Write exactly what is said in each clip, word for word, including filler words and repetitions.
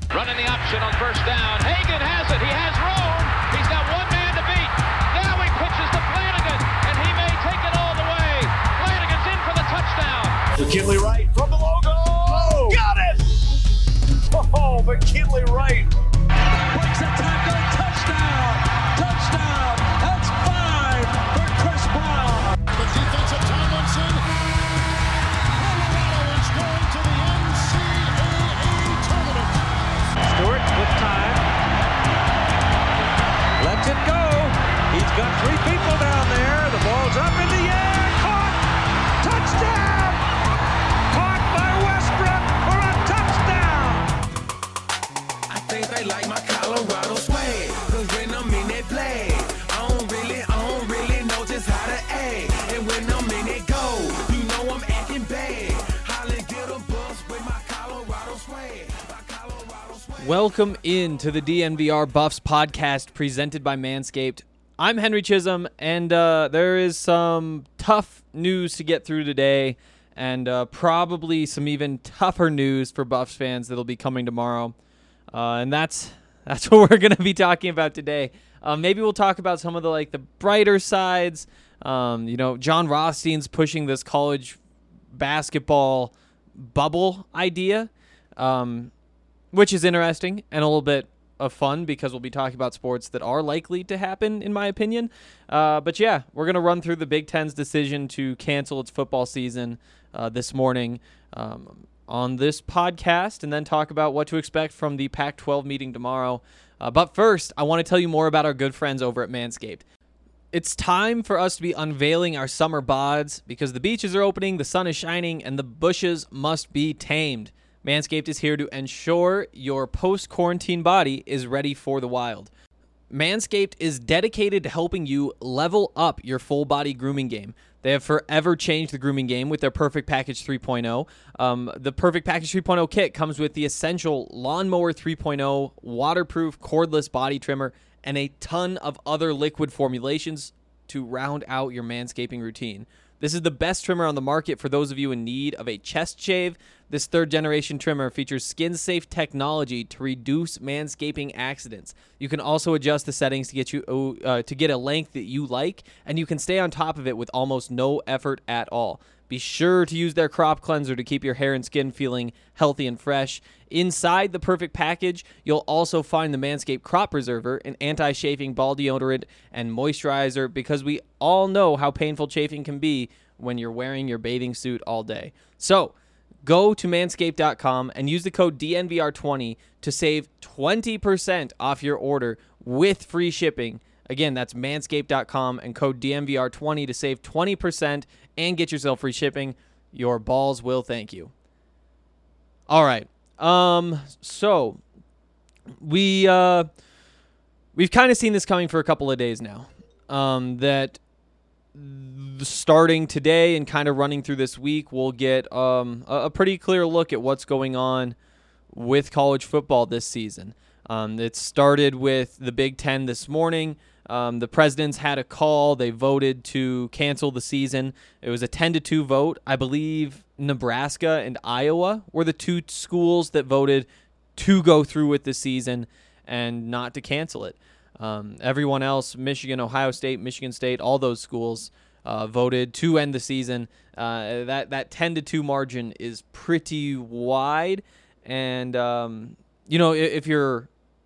Running the option on first down. Hagan has it. He has room. He's got one man to beat. Now he pitches to Flanagan, and he may take it all the way. Flanagan's in for the touchdown. McKinley Wright from the logo. Oh, got it! Oh, McKinley Wright. Breaks a tackle. Touchdown. Touchdown. That's five for Chris Brown. The defensive Tomlinson. Colorado is going to the N C double A tournament. Stewart with time. Lets it go. He's got three people down there. The ball's up in the air. Caught. Touchdown. Caught by Westbrook for a touchdown. I think they like my Colorado swag. Cause when I'm in that play, I don't really, I don't really know just how to act. And when I'm in it go, you know I'm acting bad. Holly get a bus with my Colorado swag. My Colorado swag. Welcome into the D N V R Buffs podcast presented by Manscaped. I'm Henry Chisholm, and uh, there is some tough news to get through today, and uh, probably some even tougher news for Buffs fans that'll be coming tomorrow. Uh, and that's that's what we're going to be talking about today. Uh, maybe we'll talk about some of the like the brighter sides. Um, you know, John Rothstein's pushing this college basketball bubble idea, um, which is interesting and a little bit of fun because we'll be talking about sports that are likely to happen, in my opinion. Uh, but yeah, we're going to run through the Big Ten's decision to cancel its football season uh, this morning um, on this podcast, and then talk about what to expect from the Pac twelve meeting tomorrow. Uh, but first, I want to tell you more about our good friends over at Manscaped. It's time for us to be unveiling our summer bods because the beaches are opening, the sun is shining, and the bushes must be tamed. Manscaped is here to ensure your post-quarantine body is ready for the wild. Manscaped is dedicated to helping you level up your full-body grooming game. They have forever changed the grooming game with their Perfect Package three point oh. Um, the Perfect Package three point oh kit comes with the essential Lawnmower three point oh, waterproof cordless body trimmer, and a ton of other liquid formulations to round out your manscaping routine. This is the best trimmer on the market for those of you in need of a chest shave. This third-generation trimmer features skin-safe technology to reduce manscaping accidents. You can also adjust the settings to get you uh, to get a length that you like, and you can stay on top of it with almost no effort at all. Be sure to use their crop cleanser to keep your hair and skin feeling healthy and fresh. Inside the Perfect Package, you'll also find the Manscaped Crop Preserver, an anti-chafing ball deodorant and moisturizer, because we all know how painful chafing can be when you're wearing your bathing suit all day. So, go to manscaped dot com and use the code D N V R twenty to save twenty percent off your order with free shipping. Again, that's manscaped dot com and code D N V R twenty to save twenty percent and get yourself free shipping. Your balls will thank you. All right. Um, so we, uh, we've kind of seen this coming for a couple of days now. Um, that starting today and kind of running through this week, we'll get um, a, a pretty clear look at what's going on with college football this season. Um, it started with the Big Ten this morning. Um, the presidents had a call. They voted to cancel the season. It was a ten to two vote. I believe Nebraska and Iowa were the two schools that voted to go through with the season and not to cancel it. Um, everyone else, Michigan, Ohio State, Michigan State, all those schools uh, voted to end the season. Uh, that that ten to two margin is pretty wide. And, um, you know, if, if you're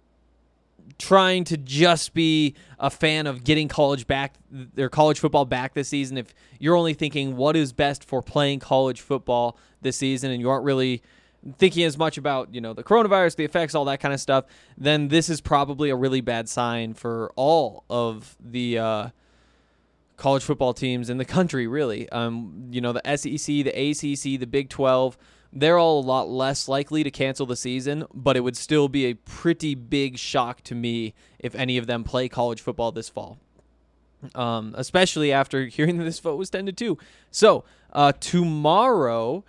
trying to just be a fan of getting college back, their college football back this season, if you're only thinking what is best for playing college football this season and you aren't really thinking as much about, you know, the coronavirus, the effects, all that kind of stuff, then this is probably a really bad sign for all of the uh, college football teams in the country, really. Um, you know, the S E C, the A C C, the Big twelve, they're all a lot less likely to cancel the season, but it would still be a pretty big shock to me if any of them play college football this fall, um, especially after hearing that this vote was ten to two. So uh, tomorrow,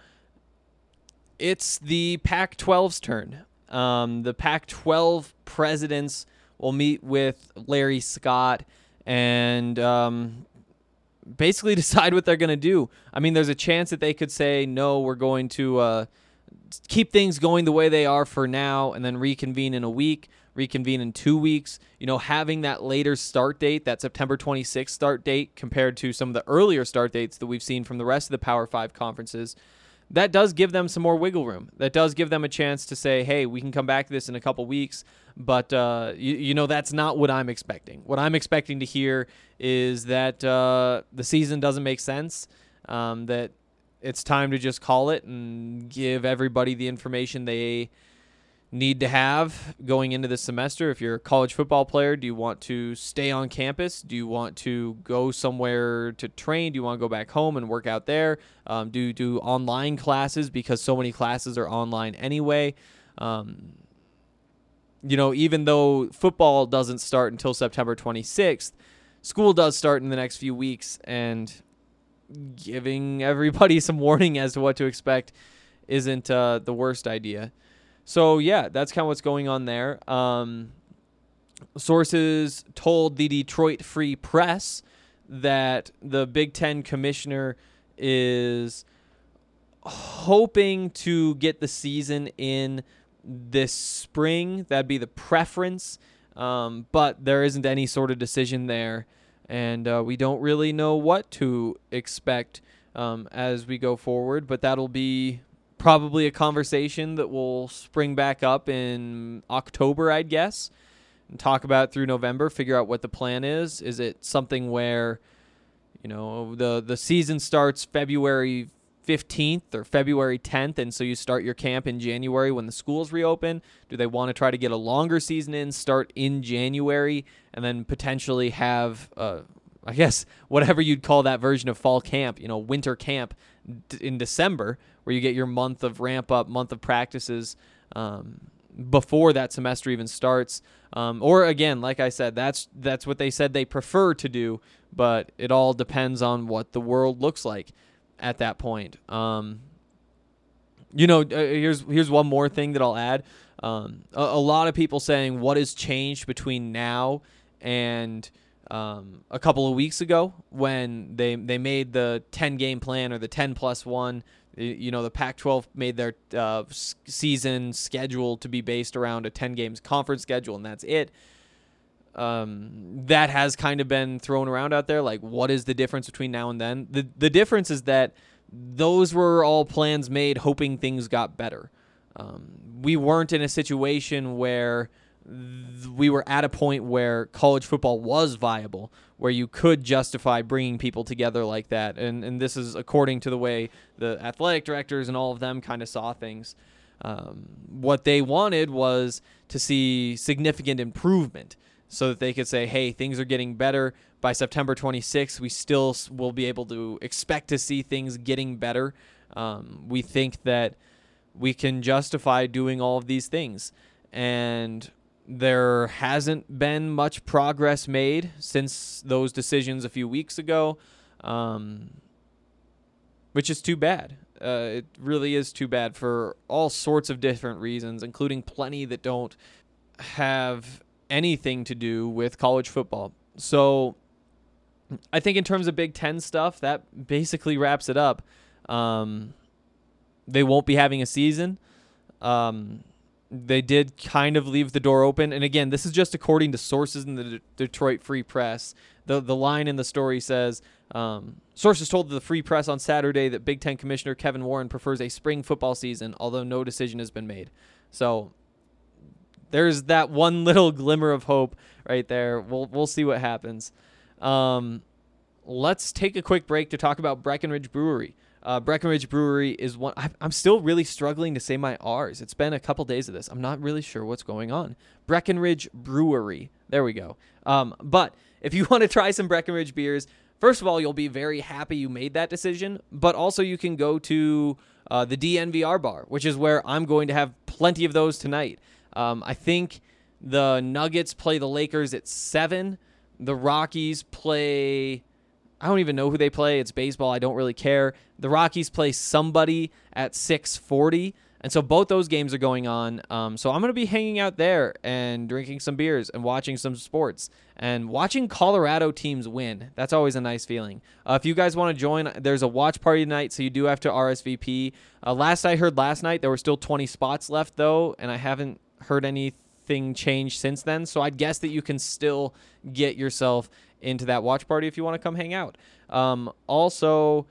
it's the Pac twelve's turn. Um, the Pac twelve presidents will meet with Larry Scott and um, basically decide what they're going to do. I mean, there's a chance that they could say, no, we're going to uh, keep things going the way they are for now and then reconvene in a week, reconvene in two weeks. You know, having that later start date, that September twenty-sixth start date, compared to some of the earlier start dates that we've seen from the rest of the Power Five conferences, that does give them some more wiggle room. That does give them a chance to say, hey, we can come back to this in a couple weeks. But, uh, you, you know, that's not what I'm expecting. What I'm expecting to hear is that uh, the season doesn't make sense, um, that it's time to just call it and give everybody the information they need to have going into the semester. If you're a college football player, do you want to stay on campus? Do you want to go somewhere to train? Do you want to go back home and work out there? Um, do you do online classes because so many classes are online anyway? Um, you know, even though football doesn't start until September twenty-sixth, school does start in the next few weeks, and giving everybody some warning as to what to expect isn't uh, the worst idea. So, yeah, that's kind of what's going on there. Um, sources told the Detroit Free Press that the Big Ten commissioner is hoping to get the season in this spring. That'd be the preference, um, but there isn't any sort of decision there, and uh, we don't really know what to expect um, as we go forward, but that'll be probably a conversation that will spring back up in October, I'd guess, and talk about it through November, figure out what the plan is. Is it something where, you know, the, the season starts February fifteenth or February tenth, and so you start your camp in January when the schools reopen? Do they want to try to get a longer season in, start in January, and then potentially have, uh, I guess, whatever you'd call that version of fall camp, you know, winter camp d- in December, where you get your month of ramp up, month of practices um, before that semester even starts. Um, or again, like I said, that's that's what they said they prefer to do, but it all depends on what the world looks like at that point. Um, you know, uh, here's here's one more thing that I'll add. Um, a, a lot of people saying what has changed between now and um, a couple of weeks ago when they they made the ten game plan or the ten plus one. You know, the Pac twelve made their uh, season schedule to be based around a ten games conference schedule, and that's it. Um, that has kind of been thrown around out there. Like, what is the difference between now and then? The the difference is that those were all plans made hoping things got better. Um, we weren't in a situation where th- we were at a point where college football was viable, where you could justify bringing people together like that. And and this is according to the way the athletic directors and all of them kind of saw things. Um, what they wanted was to see significant improvement so that they could say, hey, things are getting better. By September twenty-sixth, we still will be able to expect to see things getting better. Um, we think that we can justify doing all of these things. And there hasn't been much progress made since those decisions a few weeks ago, um, which is too bad. Uh, it really is too bad for all sorts of different reasons, including plenty that don't have anything to do with college football. So I think in terms of Big Ten stuff, that basically wraps it up. Um, they won't be having a season. Um, They did kind of leave the door open. And again, this is just according to sources in the D- Detroit Free Press. The the line in the story says, um, sources told the Free Press on Saturday that Big Ten Commissioner Kevin Warren prefers a spring football season, although no decision has been made. So there's that one little glimmer of hope right there. We'll we'll see what happens. Um, let's take a quick break to talk about Breckenridge Brewery. Uh, Breckenridge Brewery is one. I'm still really struggling to say my R's. It's been a couple days of this. I'm not really sure what's going on. Breckenridge Brewery. There we go. Um, but if you want to try some Breckenridge beers, first of all, you'll be very happy you made that decision. But also you can go to uh, the D N V R bar, which is where I'm going to have plenty of those tonight. Um, I think the Nuggets play the Lakers at seven. The Rockies play... I don't even know who they play. It's baseball. I don't really care. The Rockies play somebody at six forty, And so both those games are going on. Um, so I'm going to be hanging out there and drinking some beers and watching some sports and watching Colorado teams win. That's always a nice feeling. Uh, if you guys want to join, there's a watch party tonight, so you do have to R S V P. Uh, last I heard last night, there were still twenty spots left, though, and I haven't heard anything change since then. So I'd guess that you can still get yourself into that watch party if you want to come hang out. Um, also,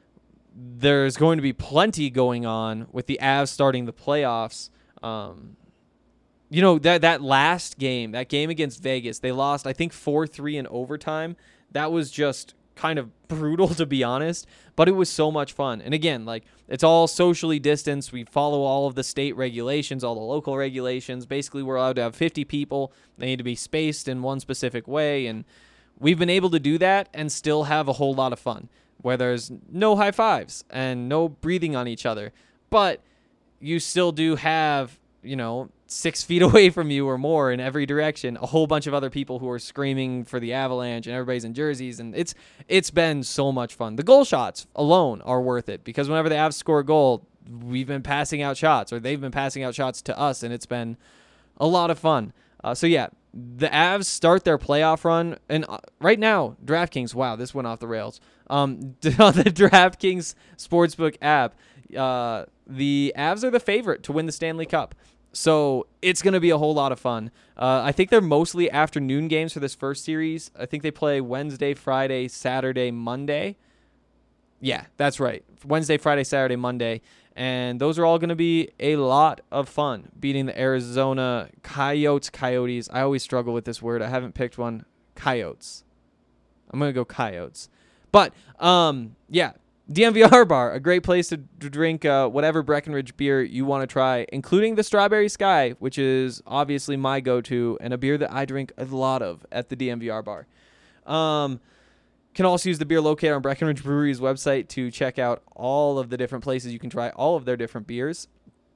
there's going to be plenty going on with the Avs starting the playoffs. Um, you know, that that last game, that game against Vegas, they lost, I think, four three in overtime. That was just kind of brutal, to be honest, but it was so much fun. And again, like, it's all socially distanced. We follow all of the state regulations, all the local regulations. Basically, we're allowed to have fifty people. They need to be spaced in one specific way, and we've been able to do that and still have a whole lot of fun, where there's no high fives and no breathing on each other. But you still do have, you know, six feet away from you or more in every direction, a whole bunch of other people who are screaming for the Avalanche, and everybody's in jerseys. And it's it's been so much fun. The goal shots alone are worth it, because whenever the Avs score a goal, we've been passing out shots, or they've been passing out shots to us, and it's been a lot of fun. Uh, so, yeah, the Avs start their playoff run, and uh, right now, DraftKings, wow, this went off the rails. Um, on the DraftKings Sportsbook app, uh, the Avs are the favorite to win the Stanley Cup. So it's going to be a whole lot of fun. Uh, I think they're mostly afternoon games for this first series. I think they play Wednesday, Friday, Saturday, Monday. Yeah, that's right. Wednesday, Friday, Saturday, Monday. And those are all going to be a lot of fun, beating the Arizona Coyotes, Coyotes. I always struggle with this word. I haven't picked one. Coyotes. I'm going to go Coyotes. But, um, yeah, D N V R Bar, a great place to drink uh, whatever Breckenridge beer you want to try, including the Strawberry Sky, which is obviously my go-to, and a beer that I drink a lot of at the D N V R Bar. Um, can also use the beer locator on Breckenridge Brewery's website to check out all of the different places you can try all of their different beers.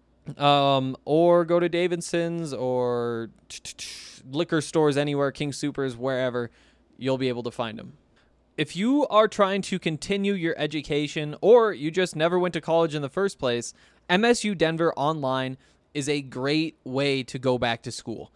Um, or go to Davidson's or liquor stores anywhere, King Supers, wherever, you'll be able to find them. If you are trying to continue your education, or you just never went to college in the first place, M S U Denver Online is a great way to go back to school.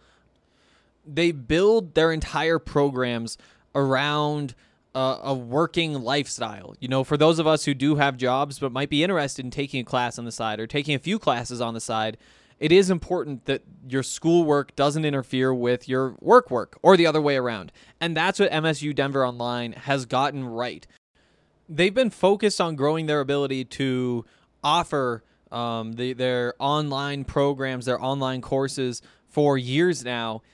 They build their entire programs around uh, a working lifestyle. You know, for those of us who do have jobs but might be interested in taking a class on the side or taking a few classes on the side, it is important that your schoolwork doesn't interfere with your work work or the other way around. And that's what M S U Denver Online has gotten right. They've been focused on growing their ability to offer um, the, their online programs, their online courses for years now.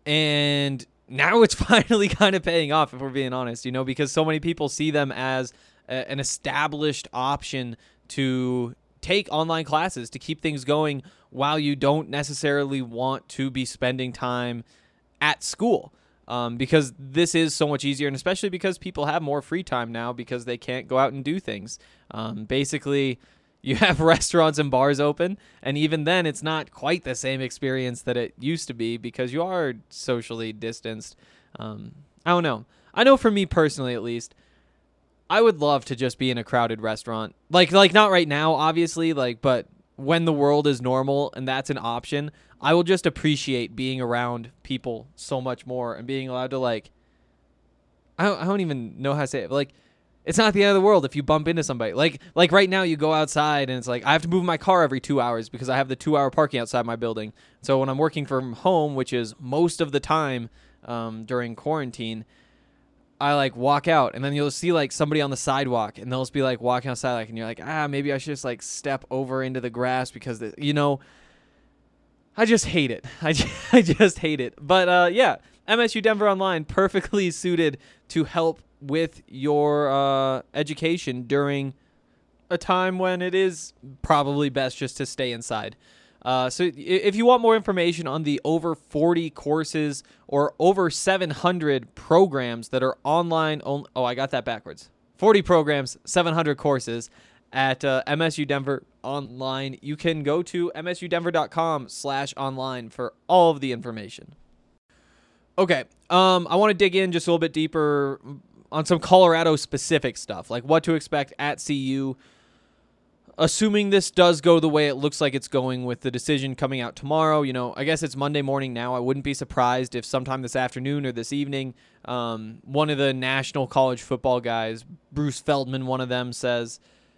And now it's finally kind of paying off, if we're being honest, you know, because so many people see them as a, an established option to take online classes to keep things going while you don't necessarily want to be spending time at school, um, because this is so much easier, and especially because people have more free time now because they can't go out and do things. Um, basically, you have restaurants and bars open, and even then it's not quite the same experience that it used to be because you are socially distanced. Um, I don't know. I know for me personally, at least, I would love to just be in a crowded restaurant. Like, like not right now, obviously, like, but when the world is normal and that's an option, I will just appreciate being around people so much more and being allowed to, like, I don't, I don't even know how to say it, but, like, it's not the end of the world if you bump into somebody. Like, like right now you go outside and it's like, I have to move my car every two hours because I have the two hour parking outside my building. So when I'm working from home, which is most of the time um, during quarantine, I like walk out and then you'll see like somebody on the sidewalk and they'll just be like walking outside, like, and you're like, ah, maybe I should just like step over into the grass because, the, you know, I just hate it. I just, I just hate it. But uh, yeah, M S U Denver Online, perfectly suited to help with your uh, education during a time when it is probably best just to stay inside. Uh, so if you want more information on the over forty courses or over seven hundred programs that are online, on- oh, I got that backwards. forty programs, seven hundred courses at uh, M S U Denver Online. You can go to msudenver.com slash online for all of the information. Okay, um, I want to dig in just a little bit deeper on some Colorado-specific stuff, like what to expect at C U. assuming this does go the way it looks like it's going with the decision coming out tomorrow, you know, I guess it's Monday morning now. I wouldn't be surprised if sometime this afternoon or this evening, um, one of the national college football guys, Bruce Feldman, one of them, says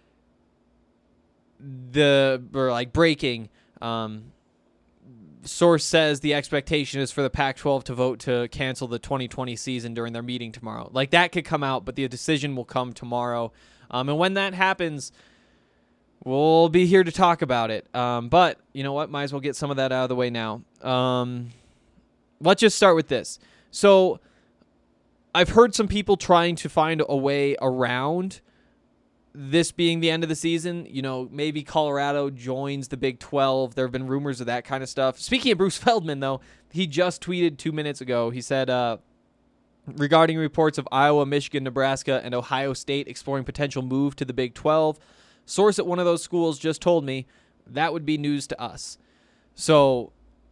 the, or like breaking, um, source says the expectation is for the Pac twelve to vote to cancel the twenty twenty season during their meeting tomorrow. Like, that could come out, but the decision will come tomorrow. Um, and when that happens, we'll be here to talk about it. Um, but you know what? Might as well get some of that out of the way now. Um, let's just start with this. So I've heard some people trying to find a way around this being the end of the season. You know, maybe Colorado joins the Big twelve. There have been rumors of that kind of stuff. Speaking of Bruce Feldman, though, he just tweeted two minutes ago. He said, uh, regarding reports of Iowa, Michigan, Nebraska, and Ohio State exploring potential move to the Big twelve, source at one of those schools just told me that would be news to us. So,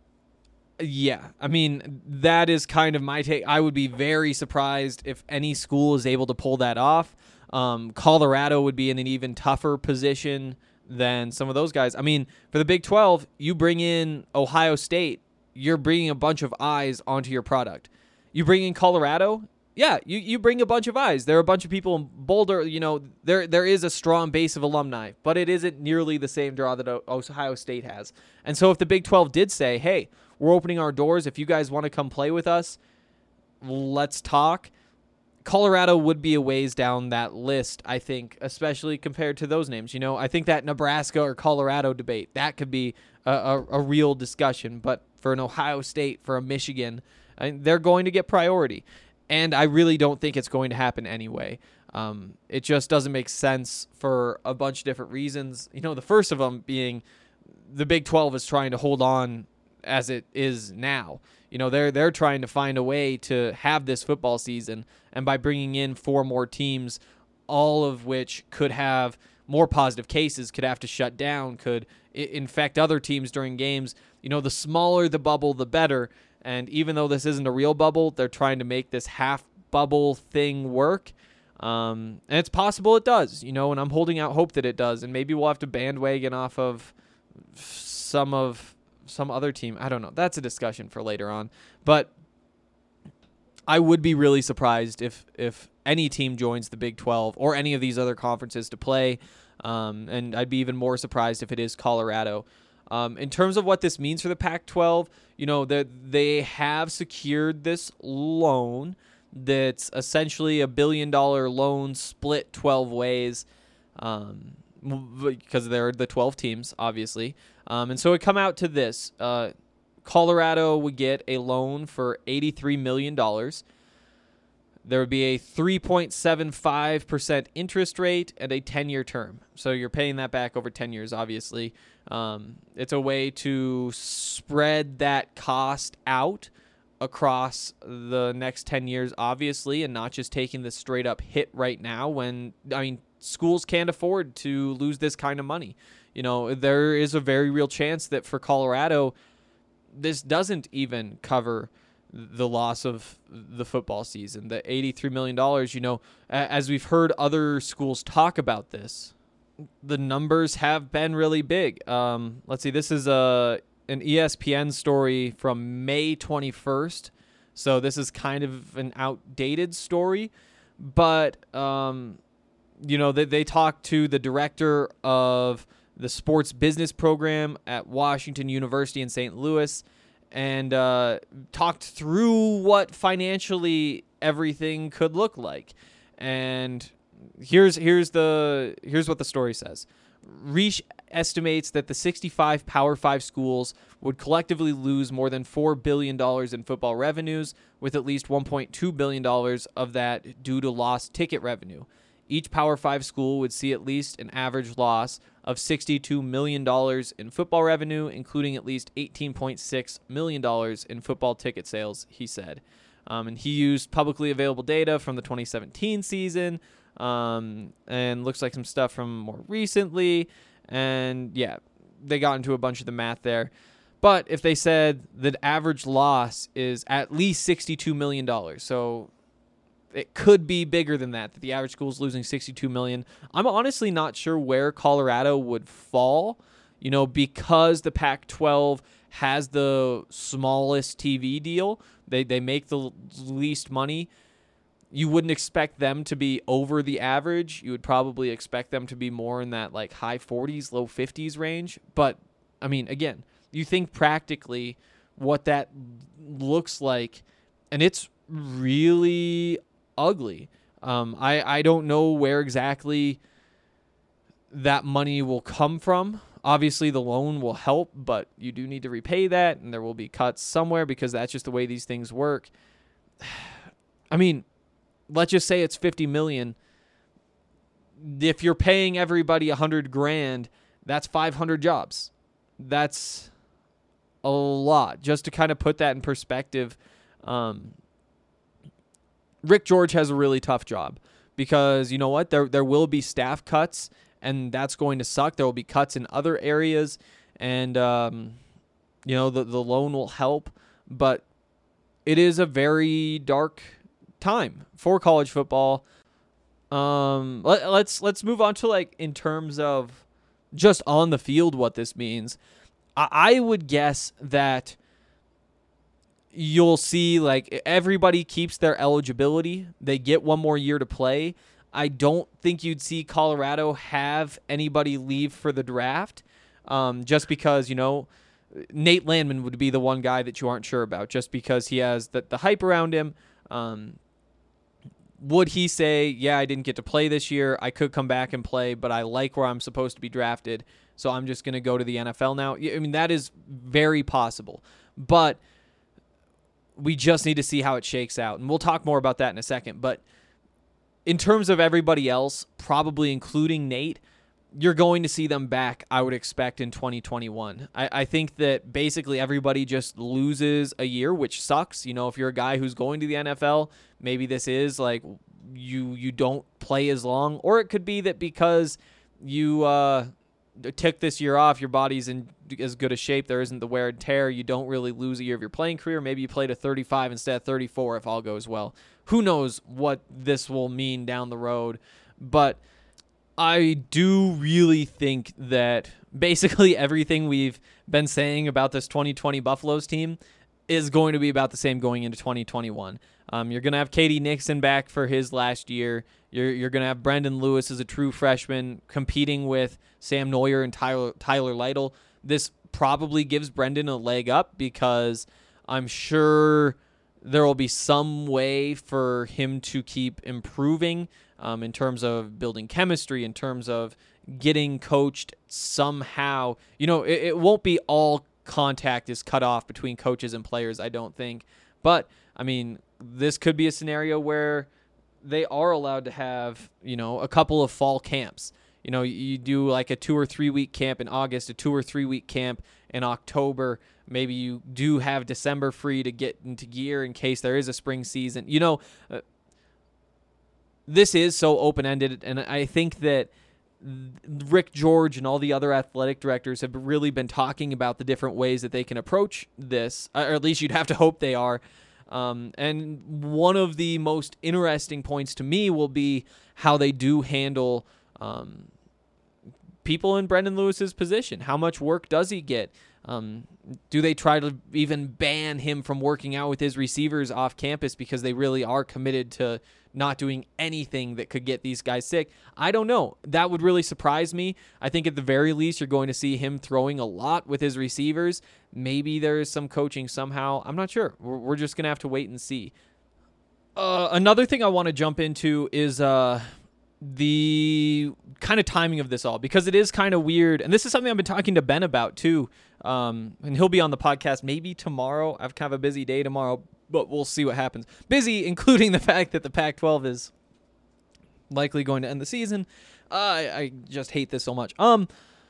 yeah, I mean, that is kind of my take. I would be very surprised if any school is able to pull that off. Um, Colorado would be in an even tougher position than some of those guys. I mean, for the Big twelve, you bring in Ohio State, you're bringing a bunch of eyes onto your product. You bring in Colorado, yeah, you, you bring a bunch of eyes. There are a bunch of people in Boulder. You know, there there is a strong base of alumni, but it isn't nearly the same draw that Ohio State has. And so if the Big twelve did say, hey, we're opening our doors, if you guys want to come play with us, let's talk, Colorado would be a ways down that list, I think, especially compared to those names. You know, I think that Nebraska or Colorado debate, that could be a, a, a real discussion. But for an Ohio State, for a Michigan, I mean, they're going to get priority. And I really don't think it's going to happen anyway. Um, it just doesn't make sense for a bunch of different reasons. You know, the first of them being the Big twelve is trying to hold on as it is now. You know, they're they're trying to find a way to have this football season, and by bringing in four more teams, all of which could have more positive cases, could have to shut down, could I- infect other teams during games. You know, the smaller the bubble, the better. And even though this isn't a real bubble, they're trying to make this half bubble thing work. Um, and it's possible it does, you know, and I'm holding out hope that it does. And maybe we'll have to bandwagon off of some of some other team. I don't know. That's a discussion for later on. But I would be really surprised if if any team joins the Big twelve or any of these other conferences to play. Um, and I'd be even more surprised if it is Colorado. Um, in terms of what this means for the Pac twelve, you know, they have secured this loan that's essentially a billion dollar loan split twelve ways, um, because they're the twelve teams, obviously. Um, and so it come out to this. Uh, Colorado would get a loan for eighty-three million dollars. There would be a three point seven five percent interest rate and a ten-year term. So you're paying that back over ten years, obviously. Um, it's a way to spread that cost out across the next ten years, obviously, and not just taking the straight-up hit right now when, I mean, schools can't afford to lose this kind of money. You know, there is a very real chance that for Colorado, this doesn't even cover the loss of the football season. The eighty-three million dollars, you know, as we've heard other schools talk about this, the numbers have been really big. Um, let's see, this is a an E S P N story from May twenty-first. So this is kind of an outdated story, but, um, you know, they, they talked to the director of the sports business program at Washington University in Saint Louis, and uh, talked through what financially everything could look like. And here's here's the here's what the story says. Reich estimates that the sixty-five Power Five schools would collectively lose more than four billion dollars in football revenues, with at least one point two billion dollars of that due to lost ticket revenue. Each Power Five school would see at least an average loss of sixty-two million dollars in football revenue, including at least eighteen point six million dollars in football ticket sales, he said. Um, and he used publicly available data from the twenty seventeen season, um, and looks like some stuff from more recently. And, yeah, they got into a bunch of the math there. But if they said the average loss is at least sixty-two million dollars, so it could be bigger than that, that the average school is losing sixty-two million dollars. I'm honestly not sure where Colorado would fall, you know, because the Pac twelve has the smallest T V deal. They they make the least money. You wouldn't expect them to be over the average. You would probably expect them to be more in that like high forties, low fifties range. But, I mean, again, you think practically what that looks like, and it's really ugly. Um, I, I don't know where exactly that money will come from. Obviously, the loan will help, but you do need to repay that, and there will be cuts somewhere because that's just the way these things work. I mean, let's just say it's fifty million dollars. If you're paying everybody one hundred grand, that's five hundred jobs. That's a lot. Just to kind of put that in perspective, um, Rick George has a really tough job because, you know what, there there will be staff cuts, and that's going to suck. There will be cuts in other areas, and, um, you know, the, the loan will help, but it is a very dark time for college football. Um, let, let's let's move on to, like, in terms of just on the field what this means. I, I would guess that you'll see, like, everybody keeps their eligibility. They get one more year to play. I don't think you'd see Colorado have anybody leave for the draft, um, just because, you know, Nate Landman would be the one guy that you aren't sure about, just because he has the, the hype around him. Um, would he say, yeah, I didn't get to play this year, I could come back and play, but I like where I'm supposed to be drafted, so I'm just going to go to the N F L now? I mean, that is very possible, but we just need to see how it shakes out, and we'll talk more about that in a second. But in terms of everybody else, probably including Nate, you're going to see them back, I would expect, in twenty twenty-one. I, I think that basically everybody just loses a year, which sucks. You know, if you're a guy who's going to the N F L, maybe this is like you you don't play as long. Or it could be that because you uh, took this year off, your body's in as good a shape, there isn't the wear and tear, you don't really lose a year of your playing career. Maybe you play to thirty-five instead of thirty-four if all goes well. Who knows what this will mean down the road. But I do really think that basically everything we've been saying about this twenty twenty Buffaloes team is going to be about the same going into twenty twenty-one. Um, you're going to have Katie Nixon back for his last year. You're you're going to have Brendan Lewis as a true freshman competing with Sam Neuer and Tyler, Tyler Lytle. This probably gives Brendan a leg up because I'm sure there will be some way for him to keep improving um, in terms of building chemistry, in terms of getting coached somehow. You know, it, it won't be all contact is cut off between coaches and players, I don't think. But, I mean, this could be a scenario where they are allowed to have, you know, a couple of fall camps. You know, you do like a two or three week camp in August, a two or three week camp in October. Maybe you do have December free to get into gear in case there is a spring season. You know, uh, this is so open-ended, and I think that Rick George and all the other athletic directors have really been talking about the different ways that they can approach this, or at least you'd have to hope they are. Um, and one of the most interesting points to me will be how they do handle um, people in Brendan Lewis's position. How much work does he get? Um, do they try to even ban him from working out with his receivers off campus because they really are committed to not doing anything that could get these guys sick? I don't know. That would really surprise me. I think at the very least you're going to see him throwing a lot with his receivers. Maybe there is some coaching somehow. I'm not sure. We're, we're just going to have to wait and see. Uh, another thing I want to jump into is uh, the kind of timing of this all, because it is kind of weird. And this is something I've been talking to Ben about too. Um, and he'll be on the podcast maybe tomorrow. I have kind of a busy day tomorrow, but we'll see what happens. Busy, including the fact that the Pac twelve is likely going to end the season. Uh, I, I just hate this so much. Um,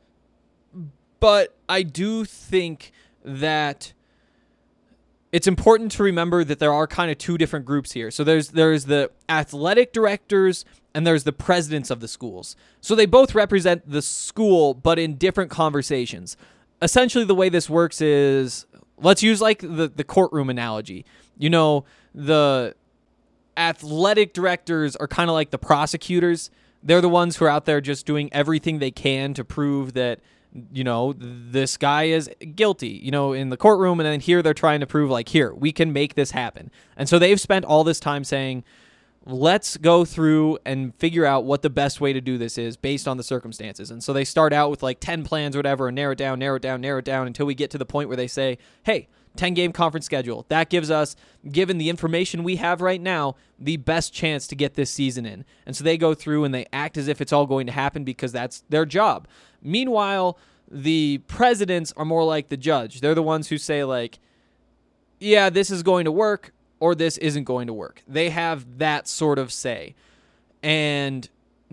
but I do think that it's important to remember that there are kind of two different groups here. So there's there's the athletic directors and there's the presidents of the schools. So they both represent the school, but in different conversations. Essentially, the way this works is, let's use like the, the courtroom analogy. You know, the athletic directors are kind of like the prosecutors. They're the ones who are out there just doing everything they can to prove that, you know, this guy is guilty, you know, in the courtroom. And then here they're trying to prove, like, here, we can make this happen. And so they've spent all this time saying, let's go through and figure out what the best way to do this is based on the circumstances. And so they start out with like ten plans or whatever and narrow it down, narrow it down, narrow it down until we get to the point where they say, hey, ten-game conference schedule. That gives us, given the information we have right now, the best chance to get this season in. And so they go through and they act as if it's all going to happen because that's their job. Meanwhile, the presidents are more like the judge. They're the ones who say, like, yeah, this is going to work, or this isn't going to work. They have that sort of say. And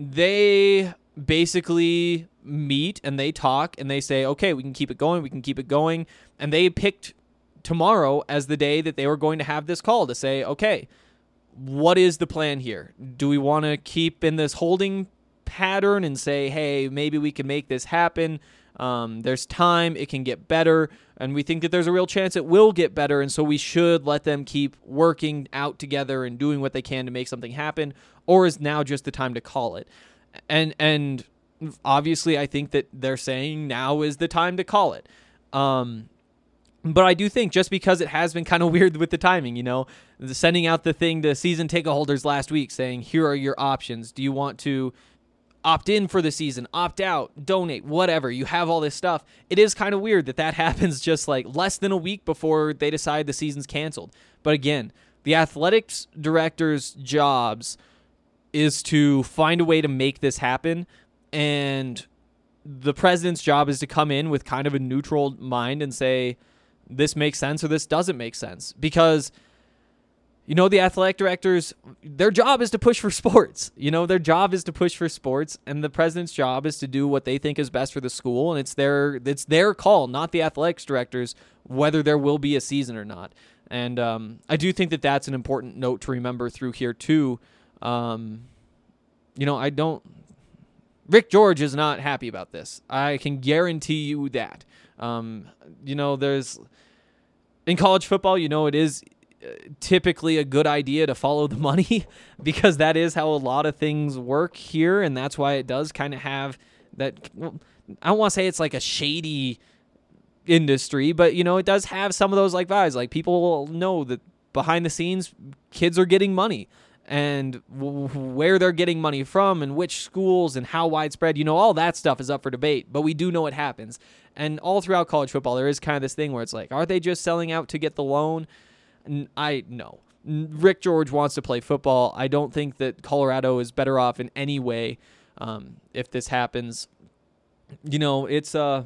they basically meet and they talk and they say, okay, we can keep it going, we can keep it going. And they picked tomorrow as the day that they were going to have this call to say, okay, what is the plan here? Do we want to keep in this holding pattern and say, hey, maybe we can make this happen? Um, there's time, it can get better, and we think that there's a real chance it will get better, and so we should let them keep working out together and doing what they can to make something happen, or is now just the time to call it? And and obviously I think that they're saying now is the time to call it. Um, but I do think just because it has been kind of weird with the timing, you know, sending out the thing to season ticket holders last week saying, here are your options. Do you want to opt in for the season, opt out, donate, whatever? You have all this stuff. It is kind of weird that that happens just like less than a week before they decide the season's canceled. But again, the athletics director's jobs is to find a way to make this happen. And the president's job is to come in with kind of a neutral mind and say, this makes sense or this doesn't make sense. Because, you know, the athletic directors, their job is to push for sports. You know, their job is to push for sports, and the president's job is to do what they think is best for the school, and it's their it's their call, not the athletics directors, whether there will be a season or not. And um, I do think that that's an important note to remember through here too. Um, you know, I don't. Rick George is not happy about this. I can guarantee you that. Um, you know, there's in college football, you know, it is typically a good idea to follow the money because that is how a lot of things work here, and that's why it does kind of have that. Well, I don't want to say it's like a shady industry, but you know, it does have some of those like vibes. Like people know that behind the scenes, kids are getting money, and w- where they're getting money from, and which schools, and how widespread. You know, all that stuff is up for debate, but we do know it happens. And all throughout college football, there is kind of this thing where it's like, are they just selling out to get the loan? I no. Rick George wants to play football. I don't think that Colorado is better off in any way um, if this happens. You know, it's uh,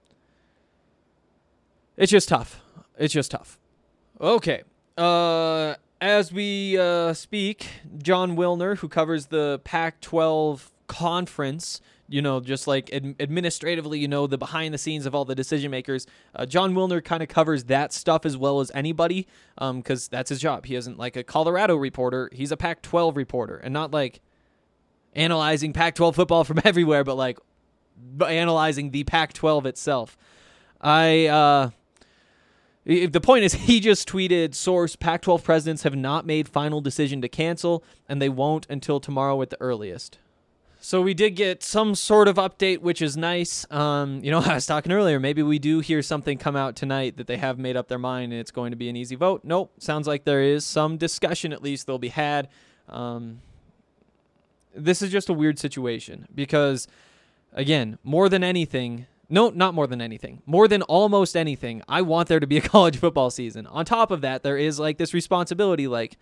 it's just tough. It's just tough. Okay. Uh, as we uh, speak, John Wilner, who covers the Pac twelve conference, you know, just like ad- administratively, you know, the behind the scenes of all the decision makers. Uh, John Wilner kind of covers that stuff as well as anybody because um, that's his job. He isn't like a Colorado reporter. He's a Pac twelve reporter, and not like analyzing Pac twelve football from everywhere, but like analyzing the Pac twelve itself. I, uh, the point is, he just tweeted, source, Pac twelve presidents have not made final decision to cancel, and they won't until tomorrow at the earliest. So we did get some sort of update, which is nice. Um, you know, I was talking earlier, maybe we do hear something come out tonight that they have made up their mind and it's going to be an easy vote. Nope. Sounds like there is some discussion, at least, they'll be had. Um, this is just a weird situation because, again, more than anything, no, not more than anything, more than almost anything, I want there to be a college football season. On top of that, there is like this responsibility, like,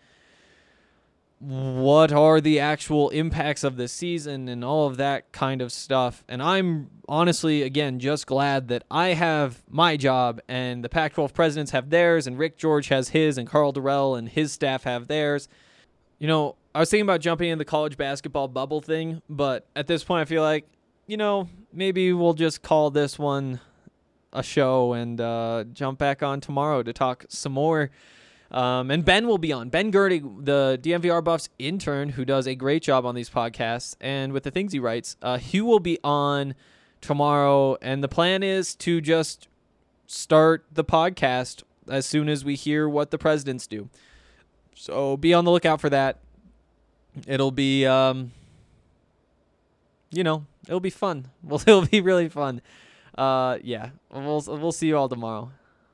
what are the actual impacts of this season and all of that kind of stuff. And I'm honestly, again, just glad that I have my job and the Pac twelve presidents have theirs and Rick George has his and Carl Durrell and his staff have theirs. You know, I was thinking about jumping in the college basketball bubble thing, but at this point I feel like, you know, maybe we'll just call this one a show and uh, jump back on tomorrow to talk some more. Um, and Ben will be on. Ben Gertig, the D N V R Buffs intern, who does a great job on these podcasts and with the things he writes, uh, he will be on tomorrow. And the plan is to just start the podcast as soon as we hear what the presidents do. So be on the lookout for that. It'll be, um, you know, it'll be fun. Well, it'll be really fun. Uh, yeah, we'll we'll see you all tomorrow.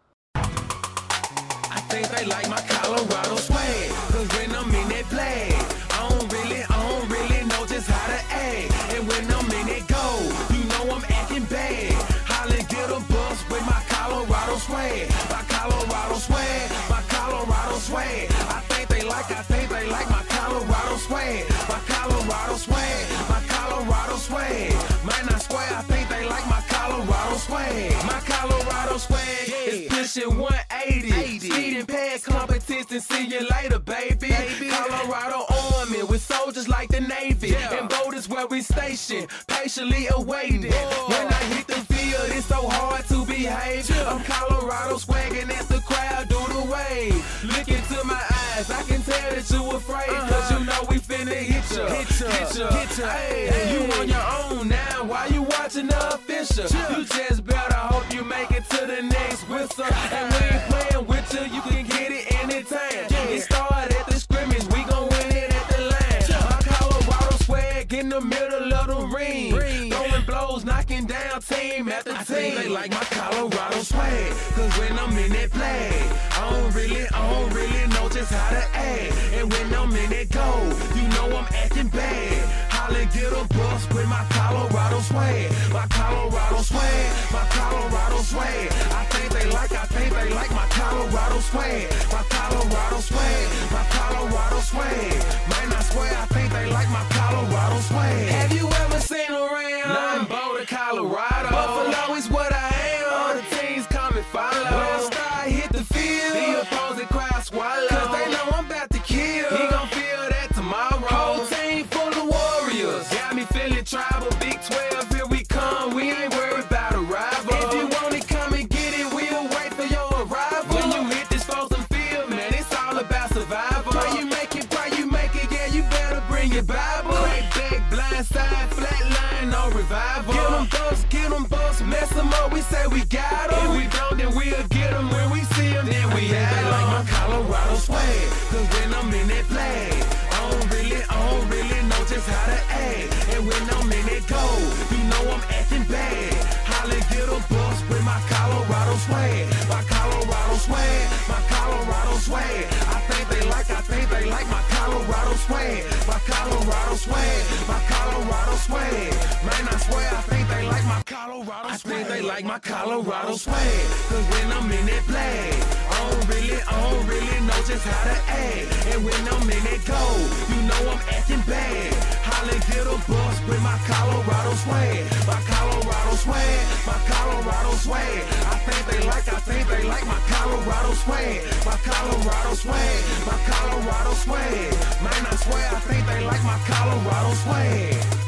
I think they like my Colorado swag, cause when I'm in that play, I don't really, I don't really know just how to act. And when I'm in that go, you know I'm acting bad. Holla, get a bus with my Colorado swag, my Colorado swag, my Colorado swag. I think they like, I think they like my Colorado swag, my Colorado swag, my Colorado swag. Man, I swear, I think they like my Colorado swag, my Colorado swag is pushing one eighty. Speeding past competition, see you later, baby. baby. Colorado Army with soldiers like the Navy, yeah. And boat is where we station, patiently awaiting. Whoa. When I hit the field, it's so hard to behave. Yeah. I'm Colorado swagging as the crowd do the wave. Look into my eyes, I can tell that you afraid, uh-huh. Cause you know we finna hit ya, hit ya, hit ya, hit ya. Hey, hey. You on your own now, why you watching the official? Yeah. You just better hope you make it to the next whistle. And we ain't playing with you, you can get it anytime. Yeah. It started at the scrimmage, we gon' win it at the line. Yeah. My Colorado swag in the middle of the ring, ring. Throwing blows, knocking down team after team. I think they like my Colorado swag, cause when I'm in that play, I don't really, I don't really know just how to act. And when I'm in that go, you know I'm acting bad. Holla, get a bus with my Colorado swag, my Colorado swag, my Colorado swag. I think they like, I think they like my Colorado swag, my Colorado swag, my Colorado swag. Man, I swear, I think they like my Colorado swag. Have you ever seen around? Nah, I'm Boulder, Colorado. Buffalo is what I am. All the teams come and follow. When I start hit the field, the opposing crowd swallow, cause they know I'm about to kill. He gon' feel that tomorrow. Whole team full of warriors, got me feeling tribal. Big twelve, here we come. We ain't worried about a rival. If you want it, come and get it. We'll wait for your arrival. When you hit this frozen field, man, it's all about survival. Pray you make it, pray you make it. Yeah, you better bring your Bible. Crack back, blind side, flat line, no revival. Get them bucks, get them bucks, mess them up. We say we got them. If we don't, then we'll get them. When we see them, then we have them. Like my Colorado swag, cause when I'm in that flag, I don't really, I don't really know just how to act. And when I'm in that go, you know I'm acting bad. Holla, get a bus with my Colorado swag, my Colorado swag, my Colorado swag. I think they like, I think they like my Colorado swag, my Colorado swag, my Colorado swag. Man, I swear, I think they like my Colorado swag. I think they like my Colorado swag, cause when I'm in that flag, I don't really, I don't really know just how to act. And when I'm in that go, you know I'm acting bad. Holla, get a bus with my Colorado swag, my Colorado swag, my Colorado swag. I think they like, I think they like my Colorado swag, my Colorado swag, my Colorado swag. Man, I swear, I think they like my Colorado swag.